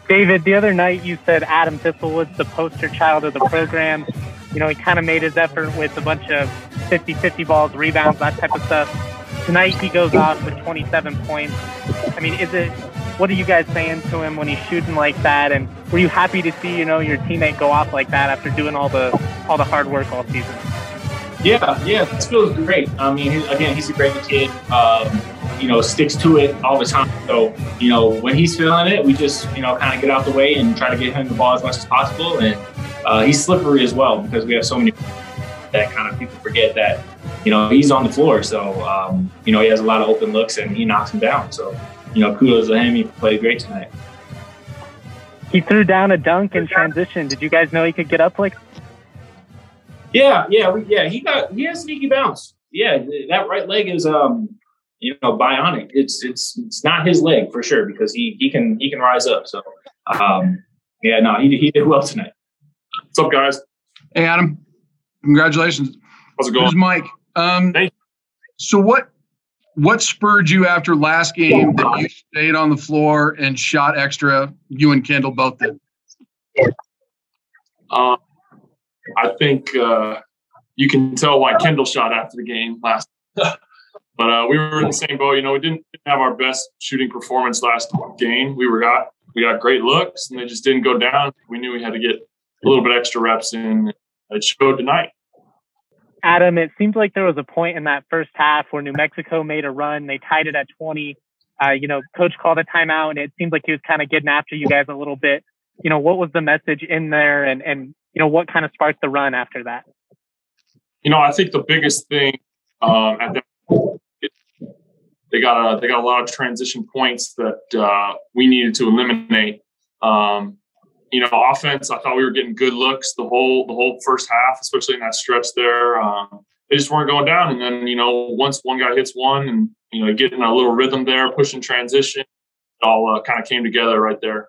David, the other night you said Adam Thistlewood's the poster child of the program. He kind of made his effort with a bunch of 50-50 balls, rebounds, that type of stuff. Tonight he goes off with 27 points. I mean, what are you guys saying to him when he's shooting like that? And were you happy to see, your teammate go off like that after doing all the hard work all season? Yeah, this feels great. I mean, he's a great kid. Sticks to it all the time. So, when he's feeling it, we just, kind of get out the way and try to get him the ball as much as possible. And he's slippery as well because we have so many that kind of people forget that, he's on the floor. So, he has a lot of open looks and he knocks them down. So, kudos to him. He played great tonight. He threw down a dunk in transition. Did you guys know he could get up like? Yeah. He has sneaky bounce. Yeah, that right leg is bionic. It's not his leg for sure because he can rise up. So he did well tonight. What's up, guys? Hey, Adam. Congratulations. How's it going? Here's Mike. Hey. So what spurred you after last game that you stayed on the floor and shot extra? You and Kendall both did. I think you can tell why Kendall shot after the game last. But we were in the same boat. We didn't have our best shooting performance last game. We got great looks, and they just didn't go down. We knew we had to get a little bit extra reps in. It showed tonight. Adam, it seems like there was a point in that first half where New Mexico made a run. They tied it at 20. Coach called a timeout, and it seemed like he was kind of getting after you guys a little bit. What was the message in there, and what kind of sparked the run after that? I think the biggest thing at that they got a lot of transition points that we needed to eliminate. Offense, I thought we were getting good looks the whole first half, especially in that stretch there. They just weren't going down. And then, once one guy hits one and, getting a little rhythm there, pushing transition, it all kind of came together right there.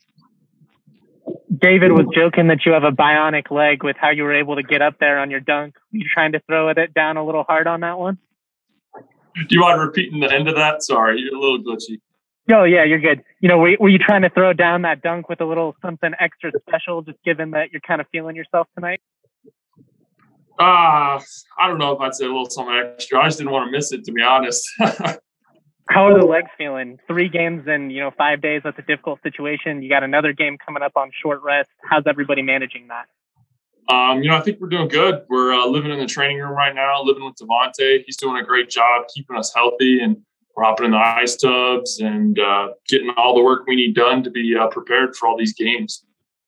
David was joking that you have a bionic leg with how you were able to get up there on your dunk. Were you trying to throw it down a little hard on that one? Do you mind repeating the end of that? Sorry, you're a little glitchy. Oh, yeah, you're good. Were you trying to throw down that dunk with a little something extra special, just given that you're kind of feeling yourself tonight? I don't know if I'd say a little something extra. I just didn't want to miss it, to be honest. How are the legs feeling? 3 games in, 5 days, that's a difficult situation. You got another game coming up on short rest. How's everybody managing that? I think we're doing good. We're living in the training room right now, living with Devontae. He's doing a great job keeping us healthy, and we're hopping in the ice tubs and getting all the work we need done to be prepared for all these games.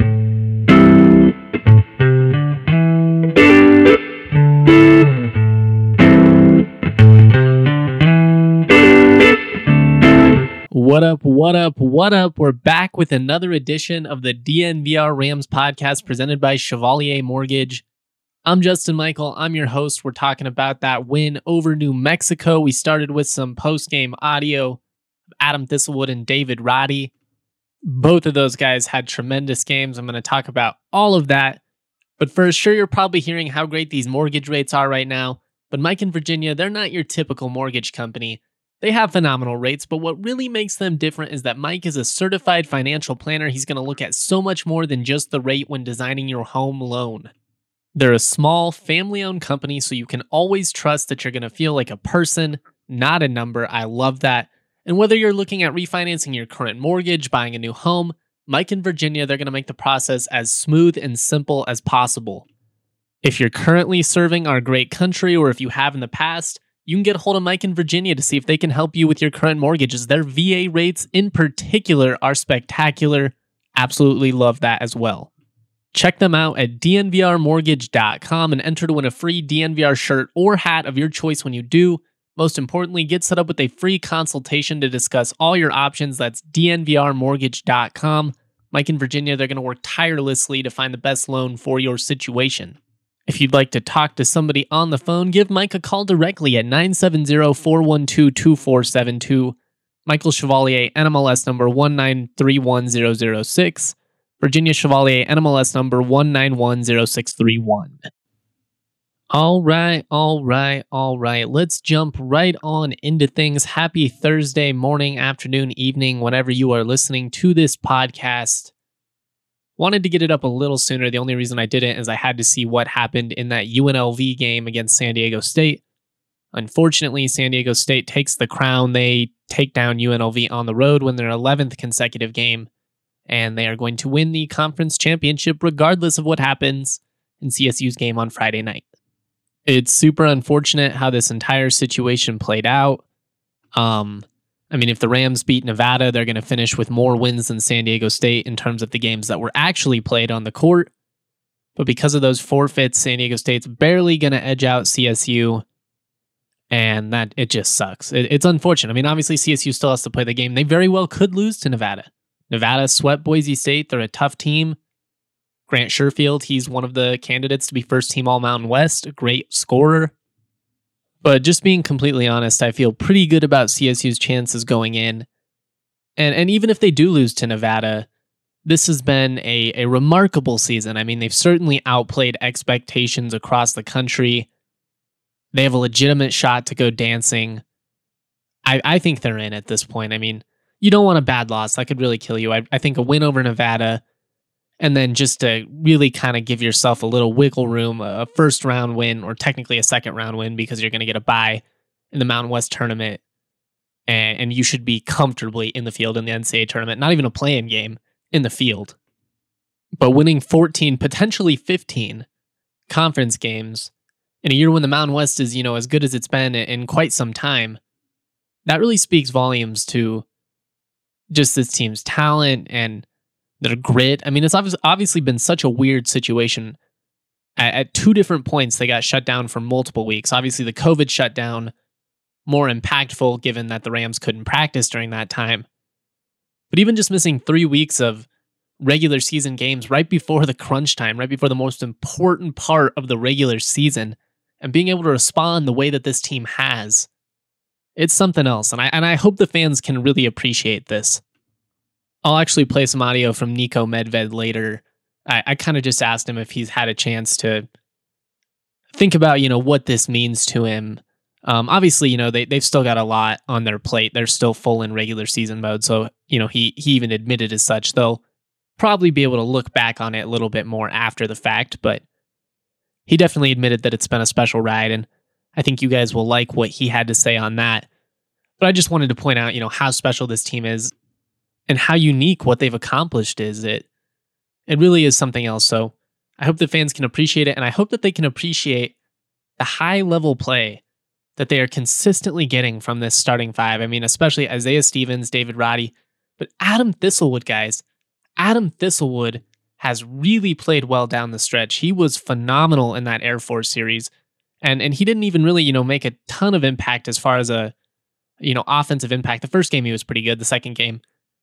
What up? We're back with another edition of the DNVR Rams podcast presented by Chevalier Mortgage. I'm Justin Michael. I'm your host. We're talking about that win over New Mexico. We started with some post-game audio of Adam Thistlewood and David Roddy. Both of those guys had tremendous games. I'm going to talk about all of that. But first, sure, you're probably hearing how great these mortgage rates are right now. But Mike and Virginia, they're not your typical mortgage company. They have phenomenal rates, but what really makes them different is that Mike is a certified financial planner. He's going to look at so much more than just the rate when designing your home loan. They're a small, family-owned company, so you can always trust that you're going to feel like a person, not a number. I love that. And whether you're looking at refinancing your current mortgage, buying a new home, Mike and Virginia, they're going to make the process as smooth and simple as possible. If you're currently serving our great country, or if you have in the past, you can get a hold of Mike and Virginia to see if they can help you with your current mortgages. Their VA rates in particular are spectacular. Absolutely love that as well. Check them out at dnvrmortgage.com and enter to win a free DNVR shirt or hat of your choice when you do. Most importantly, get set up with a free consultation to discuss all your options. That's dnvrmortgage.com. Mike and Virginia, they're going to work tirelessly to find the best loan for your situation. If you'd like to talk to somebody on the phone, give Mike a call directly at 970-412-2472. Michael Chevalier, NMLS number 1931006. Virginia Chevalier, NMLS number 1910631. All right. Let's jump right on into things. Happy Thursday morning, afternoon, evening, whenever you are listening to this podcast. Wanted to get it up a little sooner. The only reason I didn't is I had to see what happened in that UNLV game against San Diego State. Unfortunately, San Diego State takes the crown. They take down UNLV on the road, win their 11th consecutive game, and they are going to win the conference championship regardless of what happens in CSU's game on Friday night. It's super unfortunate how this entire situation played out. If the Rams beat Nevada, they're going to finish with more wins than San Diego State in terms of the games that were actually played on the court. But because of those forfeits, San Diego State's barely going to edge out CSU. And that it just sucks. It's unfortunate. Obviously CSU still has to play the game. They very well could lose to Nevada. Nevada swept Boise State. They're a tough team. Grant Sherfield, he's one of the candidates to be first team All-Mountain West, a great scorer. But just being completely honest, I feel pretty good about CSU's chances going in. And even if they do lose to Nevada, this has been a remarkable season. They've certainly outplayed expectations across the country. They have a legitimate shot to go dancing. I think they're in at this point. You don't want a bad loss. That could really kill you. I think a win over Nevada, and then just to really kind of give yourself a little wiggle room, a first round win, or technically a second round win, because you're going to get a bye in the Mountain West tournament, and you should be comfortably in the field in the NCAA tournament, not even a play-in game, in the field. But winning 14, potentially 15 conference games in a year when the Mountain West is, as good as it's been in quite some time, that really speaks volumes to just this team's talent and their grit. It's obviously been such a weird situation. At two different points, they got shut down for multiple weeks. Obviously, the COVID shutdown, more impactful given that the Rams couldn't practice during that time. But even just missing 3 weeks of regular season games right before the crunch time, right before the most important part of the regular season, and being able to respond the way that this team has, it's something else. And I hope the fans can really appreciate this. I'll actually play some audio from Niko Medved later. I kind of just asked him if he's had a chance to think about, what this means to him. Obviously, they've still got a lot on their plate. They're still full in regular season mode. So, he even admitted as such. They'll probably be able to look back on it a little bit more after the fact, but he definitely admitted that it's been a special ride, and I think you guys will like what he had to say on that. But I just wanted to point out, how special this team is and how unique what they've accomplished is. It really is something else. So I hope the fans can appreciate it, and I hope that they can appreciate the high-level play that they are consistently getting from this starting five. Especially Isaiah Stevens, David Roddy, but Adam Thistlewood, guys. Adam Thistlewood has really played well down the stretch. He was phenomenal in that Air Force series. And he didn't even really, make a ton of impact as far as a, offensive impact. The first game he was pretty good. The second game,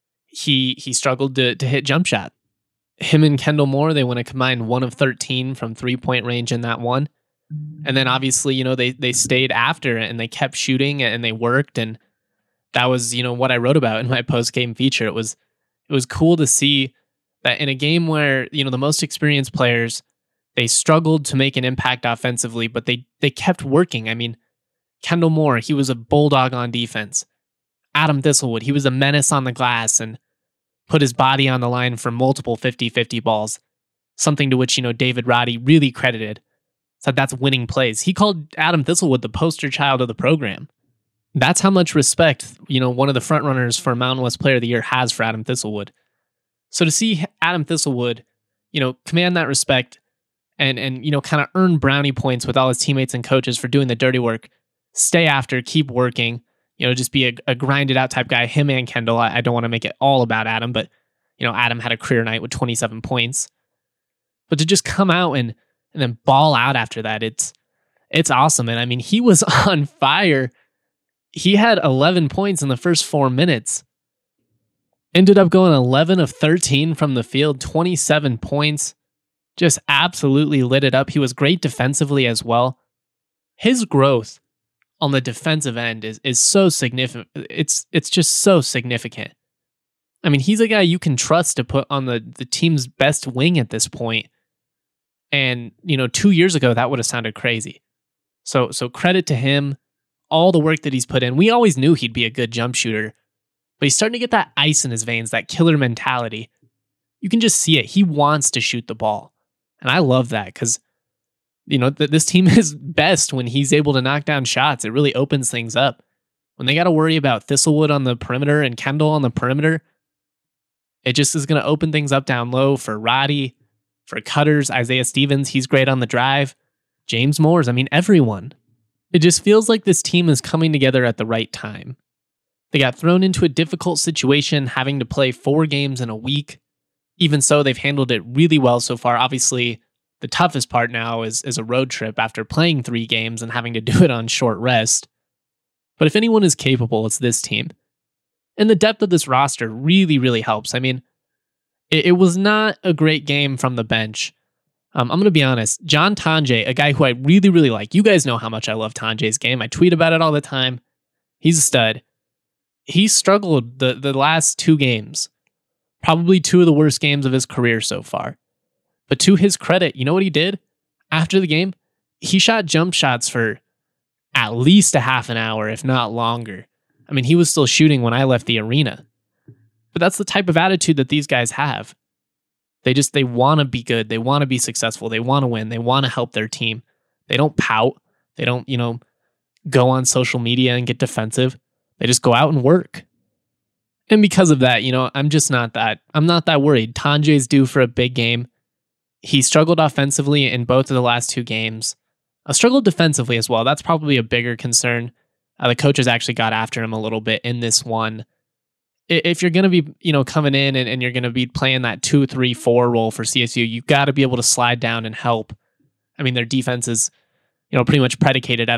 he struggled to hit jump shot. Him and Kendall Moore, they went a combined 1 of 13 from 3-point range in that one. And then obviously, they stayed after and they kept shooting and they worked. And that was, what I wrote about in my post-game feature. It was cool to see that in a game where, the most experienced players, they struggled to make an impact offensively, but they kept working. Kendall Moore, he was a bulldog on defense. Adam Thistlewood, he was a menace on the glass and put his body on the line for multiple 50-50 balls, something to which, David Roddy really credited. Said that's winning plays. He called Adam Thistlewood the poster child of the program. That's how much respect, one of the front runners for Mountain West Player of the Year has for Adam Thistlewood. So to see Adam Thistlewood, command that respect and kind of earn brownie points with all his teammates and coaches for doing the dirty work, stay after, keep working, just be a grinded out type guy. Him and Kendall, I don't want to make it all about Adam, but, Adam had a career night with 27 points. But to just come out and then ball out after that, it's awesome. And he was on fire. He had 11 points in the first 4 minutes. Ended up going 11 of 13 from the field, 27 points. Just absolutely lit it up. He was great defensively as well. His growth on the defensive end is so significant. It's just so significant. He's a guy you can trust to put on the team's best wing at this point. And, 2 years ago, that would have sounded crazy. So credit to him, all the work that he's put in. We always knew he'd be a good jump shooter, but he's starting to get that ice in his veins, that killer mentality. You can just see it. He wants to shoot the ball. And I love that because, this team is best when he's able to knock down shots. It really opens things up. When they got to worry about Thistlewood on the perimeter and Kendall on the perimeter, it just is going to open things up down low for Roddy, for cutters, Isaiah Stevens. He's great on the drive. James Moores. Everyone. It just feels like this team is coming together at the right time. They got thrown into a difficult situation, having to play 4 games in a week. Even so, they've handled it really well so far. Obviously, the toughest part now is a road trip after playing 3 games and having to do it on short rest. But if anyone is capable, it's this team. And the depth of this roster really, really helps. It was not a great game from the bench. I'm going to be honest. John Tonje, a guy who I really, really like. You guys know how much I love Tonje's game. I tweet about it all the time. He's a stud. He struggled the last 2 games. Probably 2 of the worst games of his career so far. But to his credit, you know what he did? After the game, he shot jump shots for at least a half an hour, if not longer. He was still shooting when I left the arena. But that's the type of attitude that these guys have. They want to be good. They want to be successful. They want to win. They want to help their team. They don't pout. They don't, go on social media and get defensive. They just go out and work. And because of that, I'm not that worried. Tonje's due for a big game. He struggled offensively in both of the last 2 games. Struggled defensively as well. That's probably a bigger concern. The coaches actually got after him a little bit in this one. If you're going to be, coming in and you're going to be playing that 2-3-4 role for CSU, you've got to be able to slide down and help. Their defense is, pretty much predicated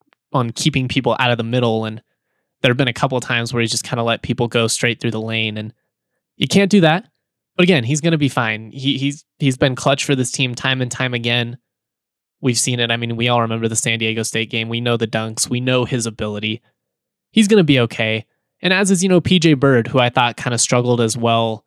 on keeping people out of the middle. And there have been a couple of times where he's just kind of let people go straight through the lane. And you can't do that. But again, he's going to be fine. He's been clutch for this team time and time again. We've seen it. We all remember the San Diego State game. We know the dunks. We know his ability. He's going to be okay. And as is, PJ Bird, who I thought kind of struggled as well.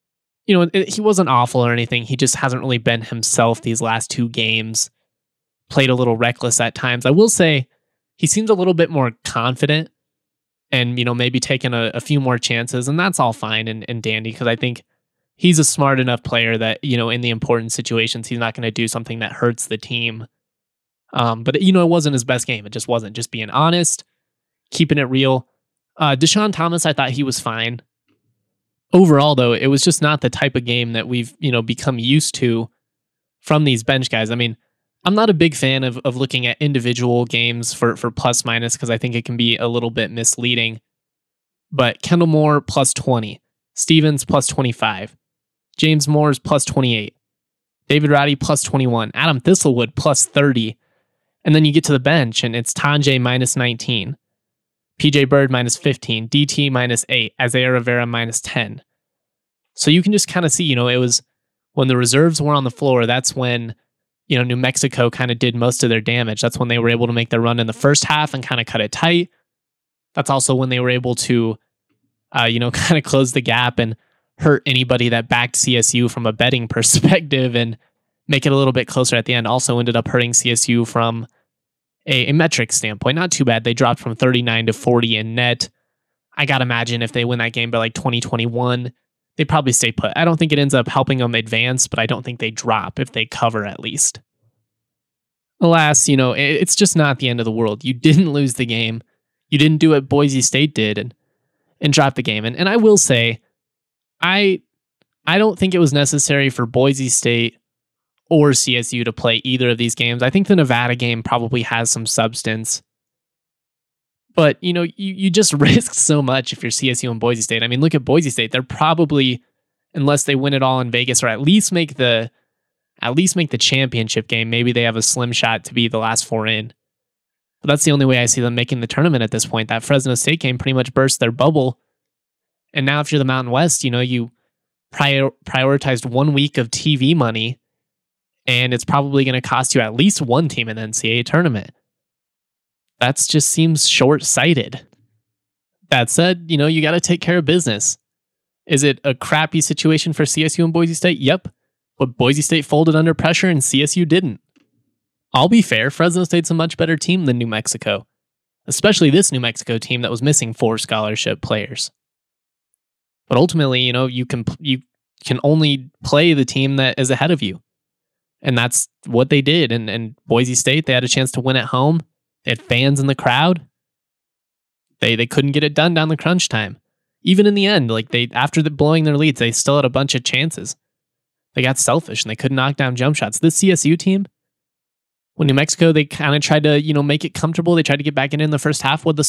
He wasn't awful or anything. He just hasn't really been himself these last 2 games. Played a little reckless at times. I will say he seems a little bit more confident and, maybe taking a few more chances. And that's all fine and dandy because I think he's a smart enough player that, in the important situations, he's not going to do something that hurts the team. But, it wasn't his best game. It just wasn't. Just being honest, keeping it real. Deshaun Thomas, I thought he was fine. Overall, though, it was just not the type of game that we've, become used to from these bench guys. I'm not a big fan of looking at individual games for plus minus because I think it can be a little bit misleading. But Kendall Moore plus 20, Stevens plus 25, James Moores plus 28, David Roddy plus 21, Adam Thistlewood plus 30. And then you get to the bench and it's Tonje minus 19. PJ Bird minus 15, DT minus 8, Isaiah Rivera minus 10. So you can just kind of see, it was when the reserves were on the floor, that's when, New Mexico kind of did most of their damage. That's when they were able to make their run in the first half and kind of cut it tight. That's also when they were able to, kind of close the gap and hurt anybody that backed CSU from a betting perspective and make it a little bit closer at the end. Also ended up hurting CSU from a metric standpoint. Not too bad. They dropped from 39 to 40 in net. I got to imagine if they win that game by like 2021, they probably stay put. I don't think it ends up helping them advance, but I don't think they drop if they cover at least. Alas, it's just not the end of the world. You didn't lose the game. You didn't do what Boise State did and drop the game. And I will say, I don't think it was necessary for Boise State or CSU to play either of these games. I think the Nevada game probably has some substance. But, you just risk so much if you're CSU and Boise State. Look at Boise State. They're probably, unless they win it all in Vegas or at least make the championship game, maybe they have a slim shot to be the last 4 in. But that's the only way I see them making the tournament at this point. That Fresno State game pretty much burst their bubble. And now if you're the Mountain West, you prioritized 1 week of TV money, and it's probably going to cost you at least 1 team in the NCAA tournament. That just seems short-sighted. That said, you got to take care of business. Is it a crappy situation for CSU and Boise State? Yep. But Boise State folded under pressure and CSU didn't. I'll be fair, Fresno State's a much better team than New Mexico, especially this New Mexico team that was missing 4 scholarship players. But ultimately, you can only play the team that is ahead of you. And that's what they did. And Boise State, they had a chance to win at home. They had fans in the crowd. They couldn't get it done down the crunch time. Even in the end, after blowing their leads, they still had a bunch of chances. They got selfish and they couldn't knock down jump shots. This CSU team, when New Mexico, they kind of tried to, make it comfortable. They tried to get back in the first half. What the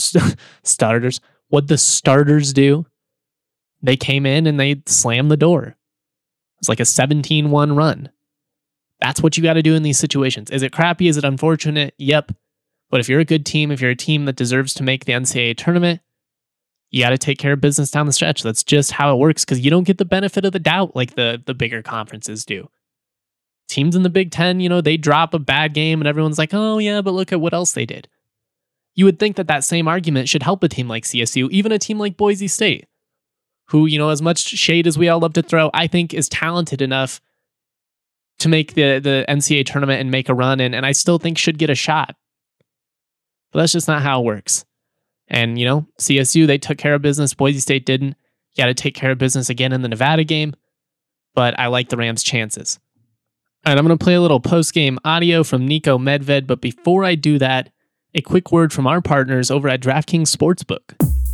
starters do? They came in and they slammed the door. It was like a 17-1 run. That's what you got to do in these situations. Is it crappy? Is it unfortunate? Yep. But if you're a good team, if you're a team that deserves to make the NCAA tournament, you got to take care of business down the stretch. That's just how it works, because you don't get the benefit of the doubt like the bigger conferences do. Teams in the Big Ten, they drop a bad game and everyone's like, oh yeah, but look at what else they did. You would think that same argument should help a team like CSU, even a team like Boise State, who, as much shade as we all love to throw, I think is talented enough to make the NCAA tournament and make a run, and I still think should get a shot. But that's just not how it works. And, CSU, they took care of business. Boise State didn't. You got to take care of business again in the Nevada game. But I like the Rams' chances. All right, I'm going to play a little post-game audio from Niko Medved. But before I do that, a quick word from our partners over at DraftKings Sportsbook.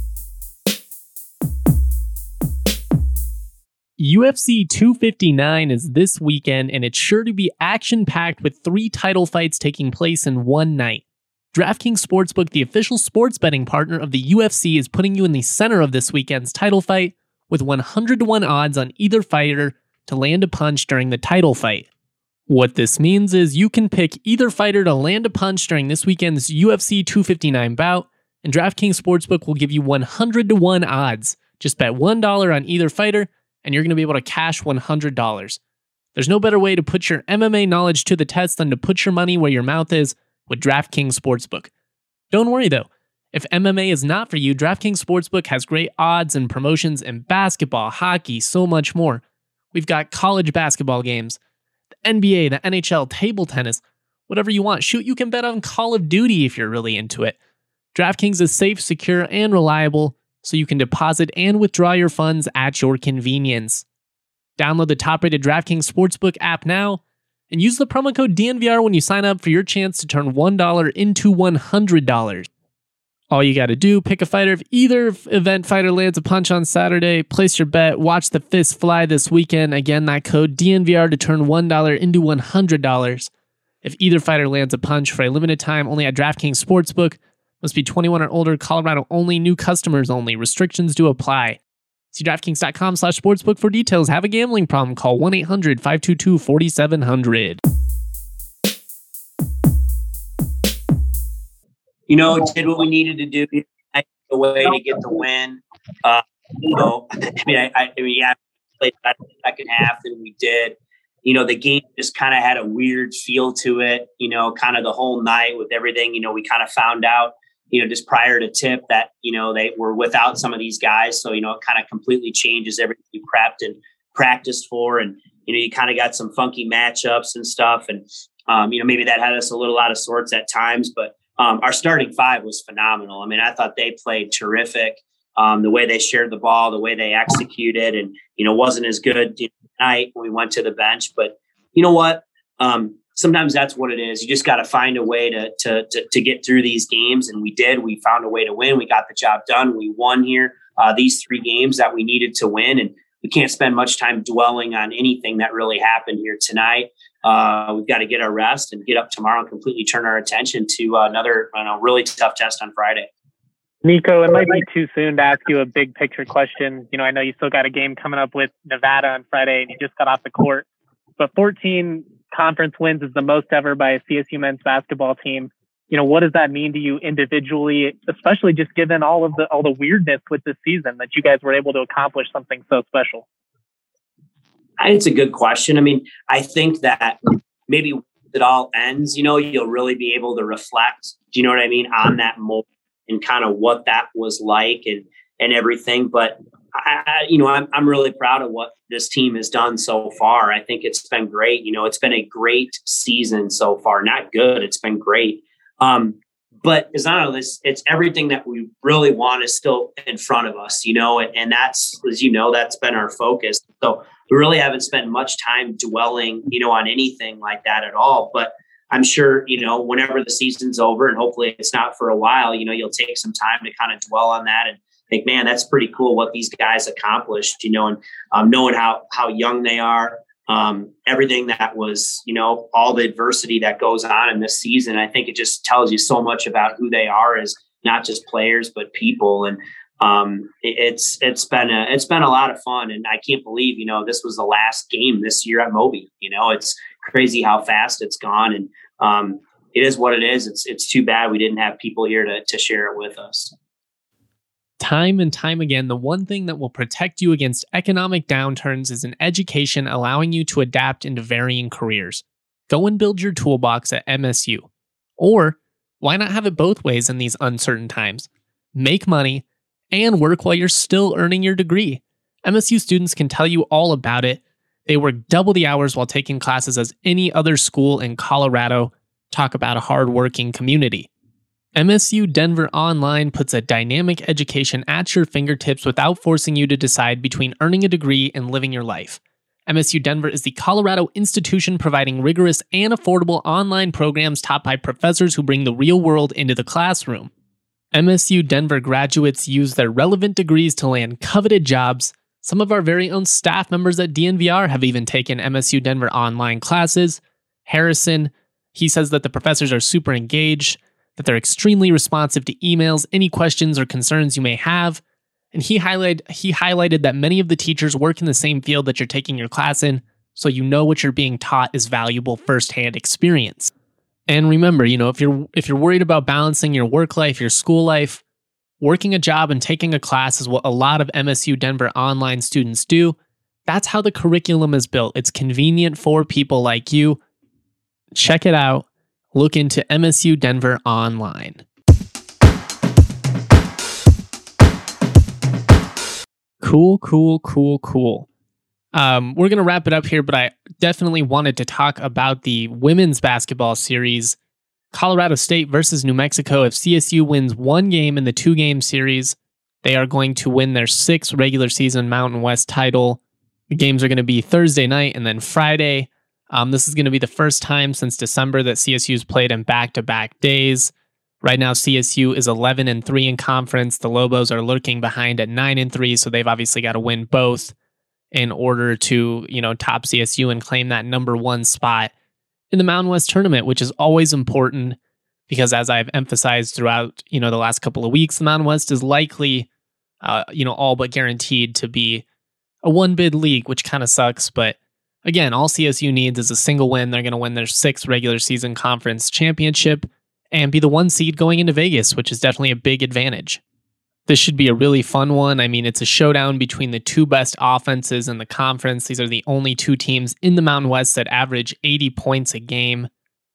UFC 259 is this weekend, and it's sure to be action-packed with 3 title fights taking place in one night. DraftKings Sportsbook, the official sports betting partner of the UFC, is putting you in the center of this weekend's title fight with 100-to-1 odds on either fighter to land a punch during the title fight. What this means is you can pick either fighter to land a punch during this weekend's UFC 259 bout, and DraftKings Sportsbook will give you 100-to-1 odds. Just bet $1 on either fighter, and you're going to be able to cash $100. There's no better way to put your MMA knowledge to the test than to put your money where your mouth is with DraftKings Sportsbook. Don't worry though, if MMA is not for you, DraftKings Sportsbook has great odds and promotions in basketball, hockey, so much more. We've got college basketball games, the NBA, the NHL, table tennis, whatever you want. Shoot, you can bet on Call of Duty if you're really into it. DraftKings is safe, secure, and reliable, so you can deposit and withdraw your funds at your convenience. Download the top-rated DraftKings Sportsbook app now and use the promo code DNVR when you sign up for your chance to turn $1 into $100. All you got to do, pick a fighter. If either event fighter lands a punch on Saturday, place your bet, watch the fist fly this weekend. Again, that code DNVR to turn $1 into $100. If either fighter lands a punch for a limited time only at DraftKings Sportsbook, must be 21 or older, Colorado only, new customers only. Restrictions do apply. See DraftKings.com/sportsbook for details. Have a gambling problem? Call 1-800-522-4700. Did what we needed to do. A way to get the win. I played better the second half than we did. The game just kind of had a weird feel to it. Kind of the whole night with everything. We kind of found out, just prior to tip that, they were without some of these guys. So, it kind of completely changes everything you prepped and practiced for. And, you kind of got some funky matchups and stuff. And, maybe that had us a little out of sorts at times. But our starting 5 was phenomenal. I mean, I thought they played terrific. The way they shared the ball, the way they executed, and, wasn't as good tonight when we went to the bench. But you know what? Sometimes that's what it is. You just got to find a way to get through these games. And we did. We found a way to win. We got the job done. We won here, these 3 games that we needed to win. And we can't spend much time dwelling on anything that really happened here tonight. We've got to get our rest and get up tomorrow and completely turn our attention to another really tough test on Friday. Niko, it might be too soon to ask you a big picture question. I know you still got a game coming up with Nevada on Friday and you just got off the court, but 14 conference wins is the most ever by a CSU men's basketball team. What does that mean to you individually, especially just given all the weirdness with this season that you guys were able to accomplish something so special? It's a good question. I mean, I think that maybe when it all ends, you'll really be able to reflect, do you know what I mean, on that moment and kind of what that was like and everything. But I'm really proud of what this team has done so far. I think it's been great. It's been a great season so far. Not good. It's been great. But it's not this. It's everything that we really want is still in front of us, and that's, as that's been our focus. So we really haven't spent much time dwelling, on anything like that at all. But I'm sure, whenever the season's over, and hopefully it's not for a while, you'll take some time to kind of dwell on that and think, man, that's pretty cool what these guys accomplished, and knowing how young they are, everything that was, all the adversity that goes on in this season. I think it just tells you so much about who they are as not just players, but people. And it's been a lot of fun. And I can't believe, this was the last game this year at Moby. It's crazy how fast it's gone. And it is what it is. It's too bad we didn't have people here to share it with us. Time and time again, the one thing that will protect you against economic downturns is an education allowing you to adapt into varying careers. Go and build your toolbox at MSU. Or why not have it both ways in these uncertain times? Make money and work while you're still earning your degree. MSU students can tell you all about it. They work double the hours while taking classes as any other school in Colorado. Talk about a hardworking community. MSU Denver Online puts a dynamic education at your fingertips without forcing you to decide between earning a degree and living your life. MSU Denver is the Colorado institution providing rigorous and affordable online programs taught by professors who bring the real world into the classroom. MSU Denver graduates use their relevant degrees to land coveted jobs. Some of our very own staff members at DNVR have even taken MSU Denver online classes. Harrison, he says that the professors are super engaged, that they're extremely responsive to emails, any questions or concerns you may have. And he highlighted that many of the teachers work in the same field that you're taking your class in, so what you're being taught is valuable firsthand experience. And remember, if you're worried about balancing your work life, your school life, working a job and taking a class is what a lot of MSU Denver online students do. That's how the curriculum is built. It's convenient for people like you. Check it out. Look into MSU Denver Online. Cool. We're going to wrap it up here, but I definitely wanted to talk about the women's basketball series, Colorado State versus New Mexico. If CSU wins one game in the 2-game series, they are going to win their 6th regular season Mountain West title. The games are going to be Thursday night and then Friday. This is going to be the first time since December that CSU's played in back-to-back days. Right now, CSU is 11-3 in conference. The Lobos are lurking behind at 9-3, so they've obviously got to win both in order to, top CSU and claim that number 1 spot in the Mountain West tournament, which is always important because, as I've emphasized throughout, the last couple of weeks, the Mountain West is likely, all but guaranteed to be a one-bid league, which kind of sucks, but again, all CSU needs is a single win. They're going to win their 6th regular season conference championship and be the 1 seed going into Vegas, which is definitely a big advantage. This should be a really fun one. I mean, it's a showdown between the 2 best offenses in the conference. These are the only 2 teams in the Mountain West that average 80 points a game.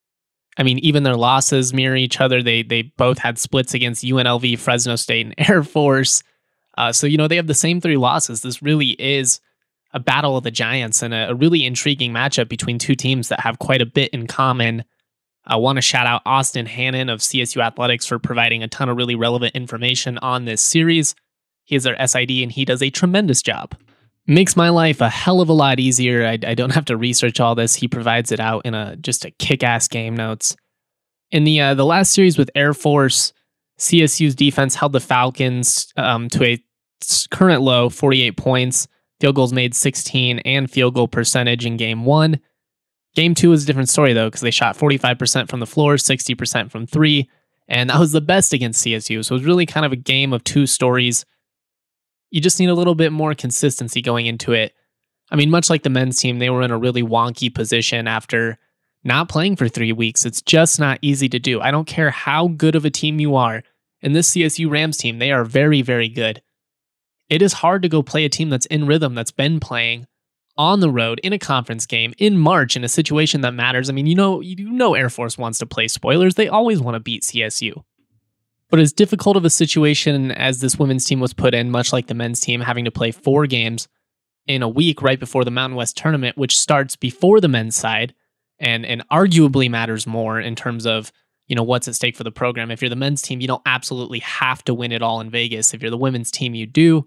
I mean, even their losses mirror each other. They both had splits against UNLV, Fresno State, and Air Force. So they have the same 3 losses. This really is a battle of the giants and a really intriguing matchup between 2 teams that have quite a bit in common. I want to shout out Austin Hannon of CSU Athletics for providing a ton of really relevant information on this series. He is their SID and he does a tremendous job. Makes my life a hell of a lot easier. I don't have to research all this. He provides it out in just a kick-ass game notes. In the last series with Air Force, CSU's defense held the Falcons to a current low, 48 points. Field goals made 16 and field goal percentage in game 1. Game 2 was a different story though, because they shot 45% from the floor, 60% from 3, and that was the best against CSU. So it was really kind of a game of 2 stories. You just need a little bit more consistency going into it. I mean, much like the men's team, they were in a really wonky position after not playing for 3 weeks. It's just not easy to do. I don't care how good of a team you are. In this CSU Rams team, they are very, very good. It is hard to go play a team that's in rhythm, that's been playing on the road in a conference game in March in a situation that matters. I mean, Air Force wants to play spoilers. They always want to beat CSU. But as difficult of a situation as this women's team was put in, much like the men's team, having to play 4 games in a week right before the Mountain West tournament, which starts before the men's side and arguably matters more in terms of, what's at stake for the program. If you're the men's team, you don't absolutely have to win it all in Vegas. If you're the women's team, you do.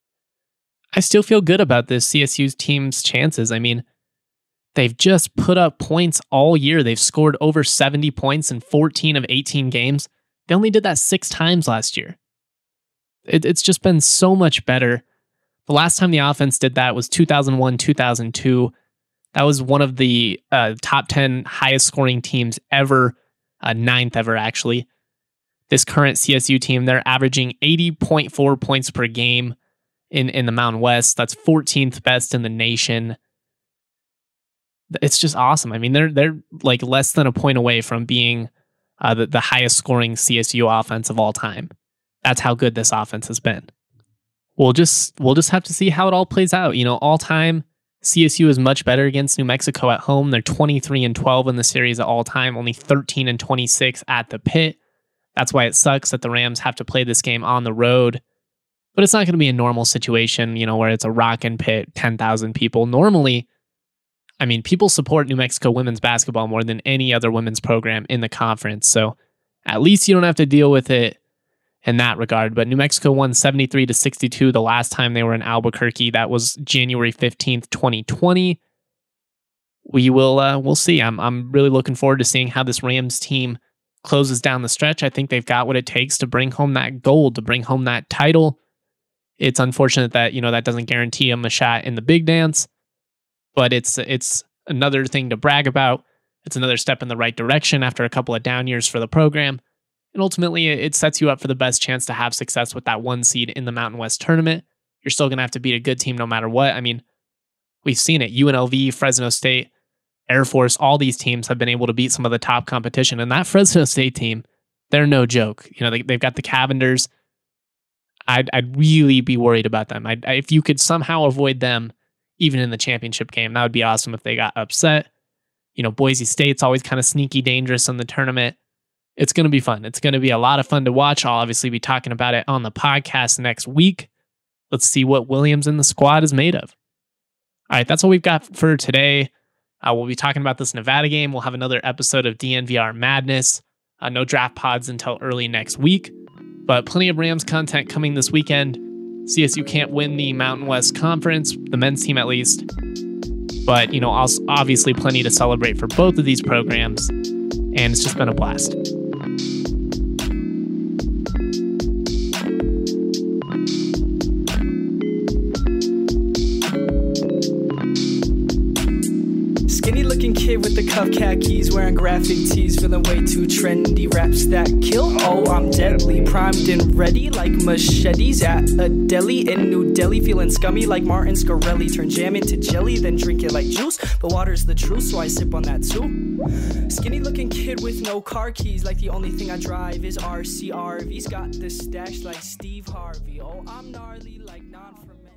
I still feel good about this CSU's team's chances. I mean, they've just put up points all year. They've scored over 70 points in 14 of 18 games. They only did that 6 times last year. It's just been so much better. The last time the offense did that was 2001, 2002. That was one of the top 10 highest scoring teams ever, 9th ever actually. This current CSU team, they're averaging 80.4 points per game in the Mountain West. That's 14th best in the nation. It's just awesome. I mean, they're like less than a point away from being the highest scoring CSU offense of all time. That's how good this offense has been. We'll just have to see how it all plays out. All time, CSU is much better against New Mexico at home. They're 23-12 in the series at all time, only 13-26 at the pit. That's why it sucks that the Rams have to play this game on the road. But it's not going to be a normal situation, where it's a rockin' pit, 10,000 people. Normally, I mean, people support New Mexico women's basketball more than any other women's program in the conference. So at least you don't have to deal with it in that regard. But New Mexico won 73-62 the last time they were in Albuquerque. That was January 15th, 2020. We'll see. I'm really looking forward to seeing how this Rams team closes down the stretch. I think they've got what it takes to bring home that gold, to bring home that title. It's unfortunate that, that doesn't guarantee them a shot in the big dance, but it's another thing to brag about. It's another step in the right direction after a couple of down years for the program. And ultimately, it sets you up for the best chance to have success with that 1 seed in the Mountain West tournament. You're still going to have to beat a good team no matter what. I mean, we've seen it. UNLV, Fresno State, Air Force, all these teams have been able to beat some of the top competition. And that Fresno State team, they're no joke. They've got the Cavenders. I'd really be worried about them. If you could somehow avoid them, even in the championship game, that would be awesome if they got upset. Boise State's always kind of sneaky dangerous in the tournament. It's going to be fun. It's going to be a lot of fun to watch. I'll obviously be talking about it on the podcast next week. Let's see what Williams and the squad is made of. All right, that's all we've got for today. We'll be talking about this Nevada game. We'll have another episode of DNVR Madness. No draft pods until early next week, but plenty of Rams content coming this weekend. CSU can't win the Mountain West Conference, the men's team at least. But, also obviously plenty to celebrate for both of these programs. And it's just been a blast. Skinny looking kid with the cuff khakis, wearing graphic tees, feeling way too trendy. Raps that kill, oh I'm deadly, primed and ready like machetes at a deli in New Delhi. Feeling scummy like Martin Scarelli, turn jam into jelly, then drink it like juice. But water's the truth, so I sip on that too. Skinny looking kid with no car keys, like the only thing I drive is RCRV's. Got the stash like Steve Harvey, oh I'm gnarly like non-fermented.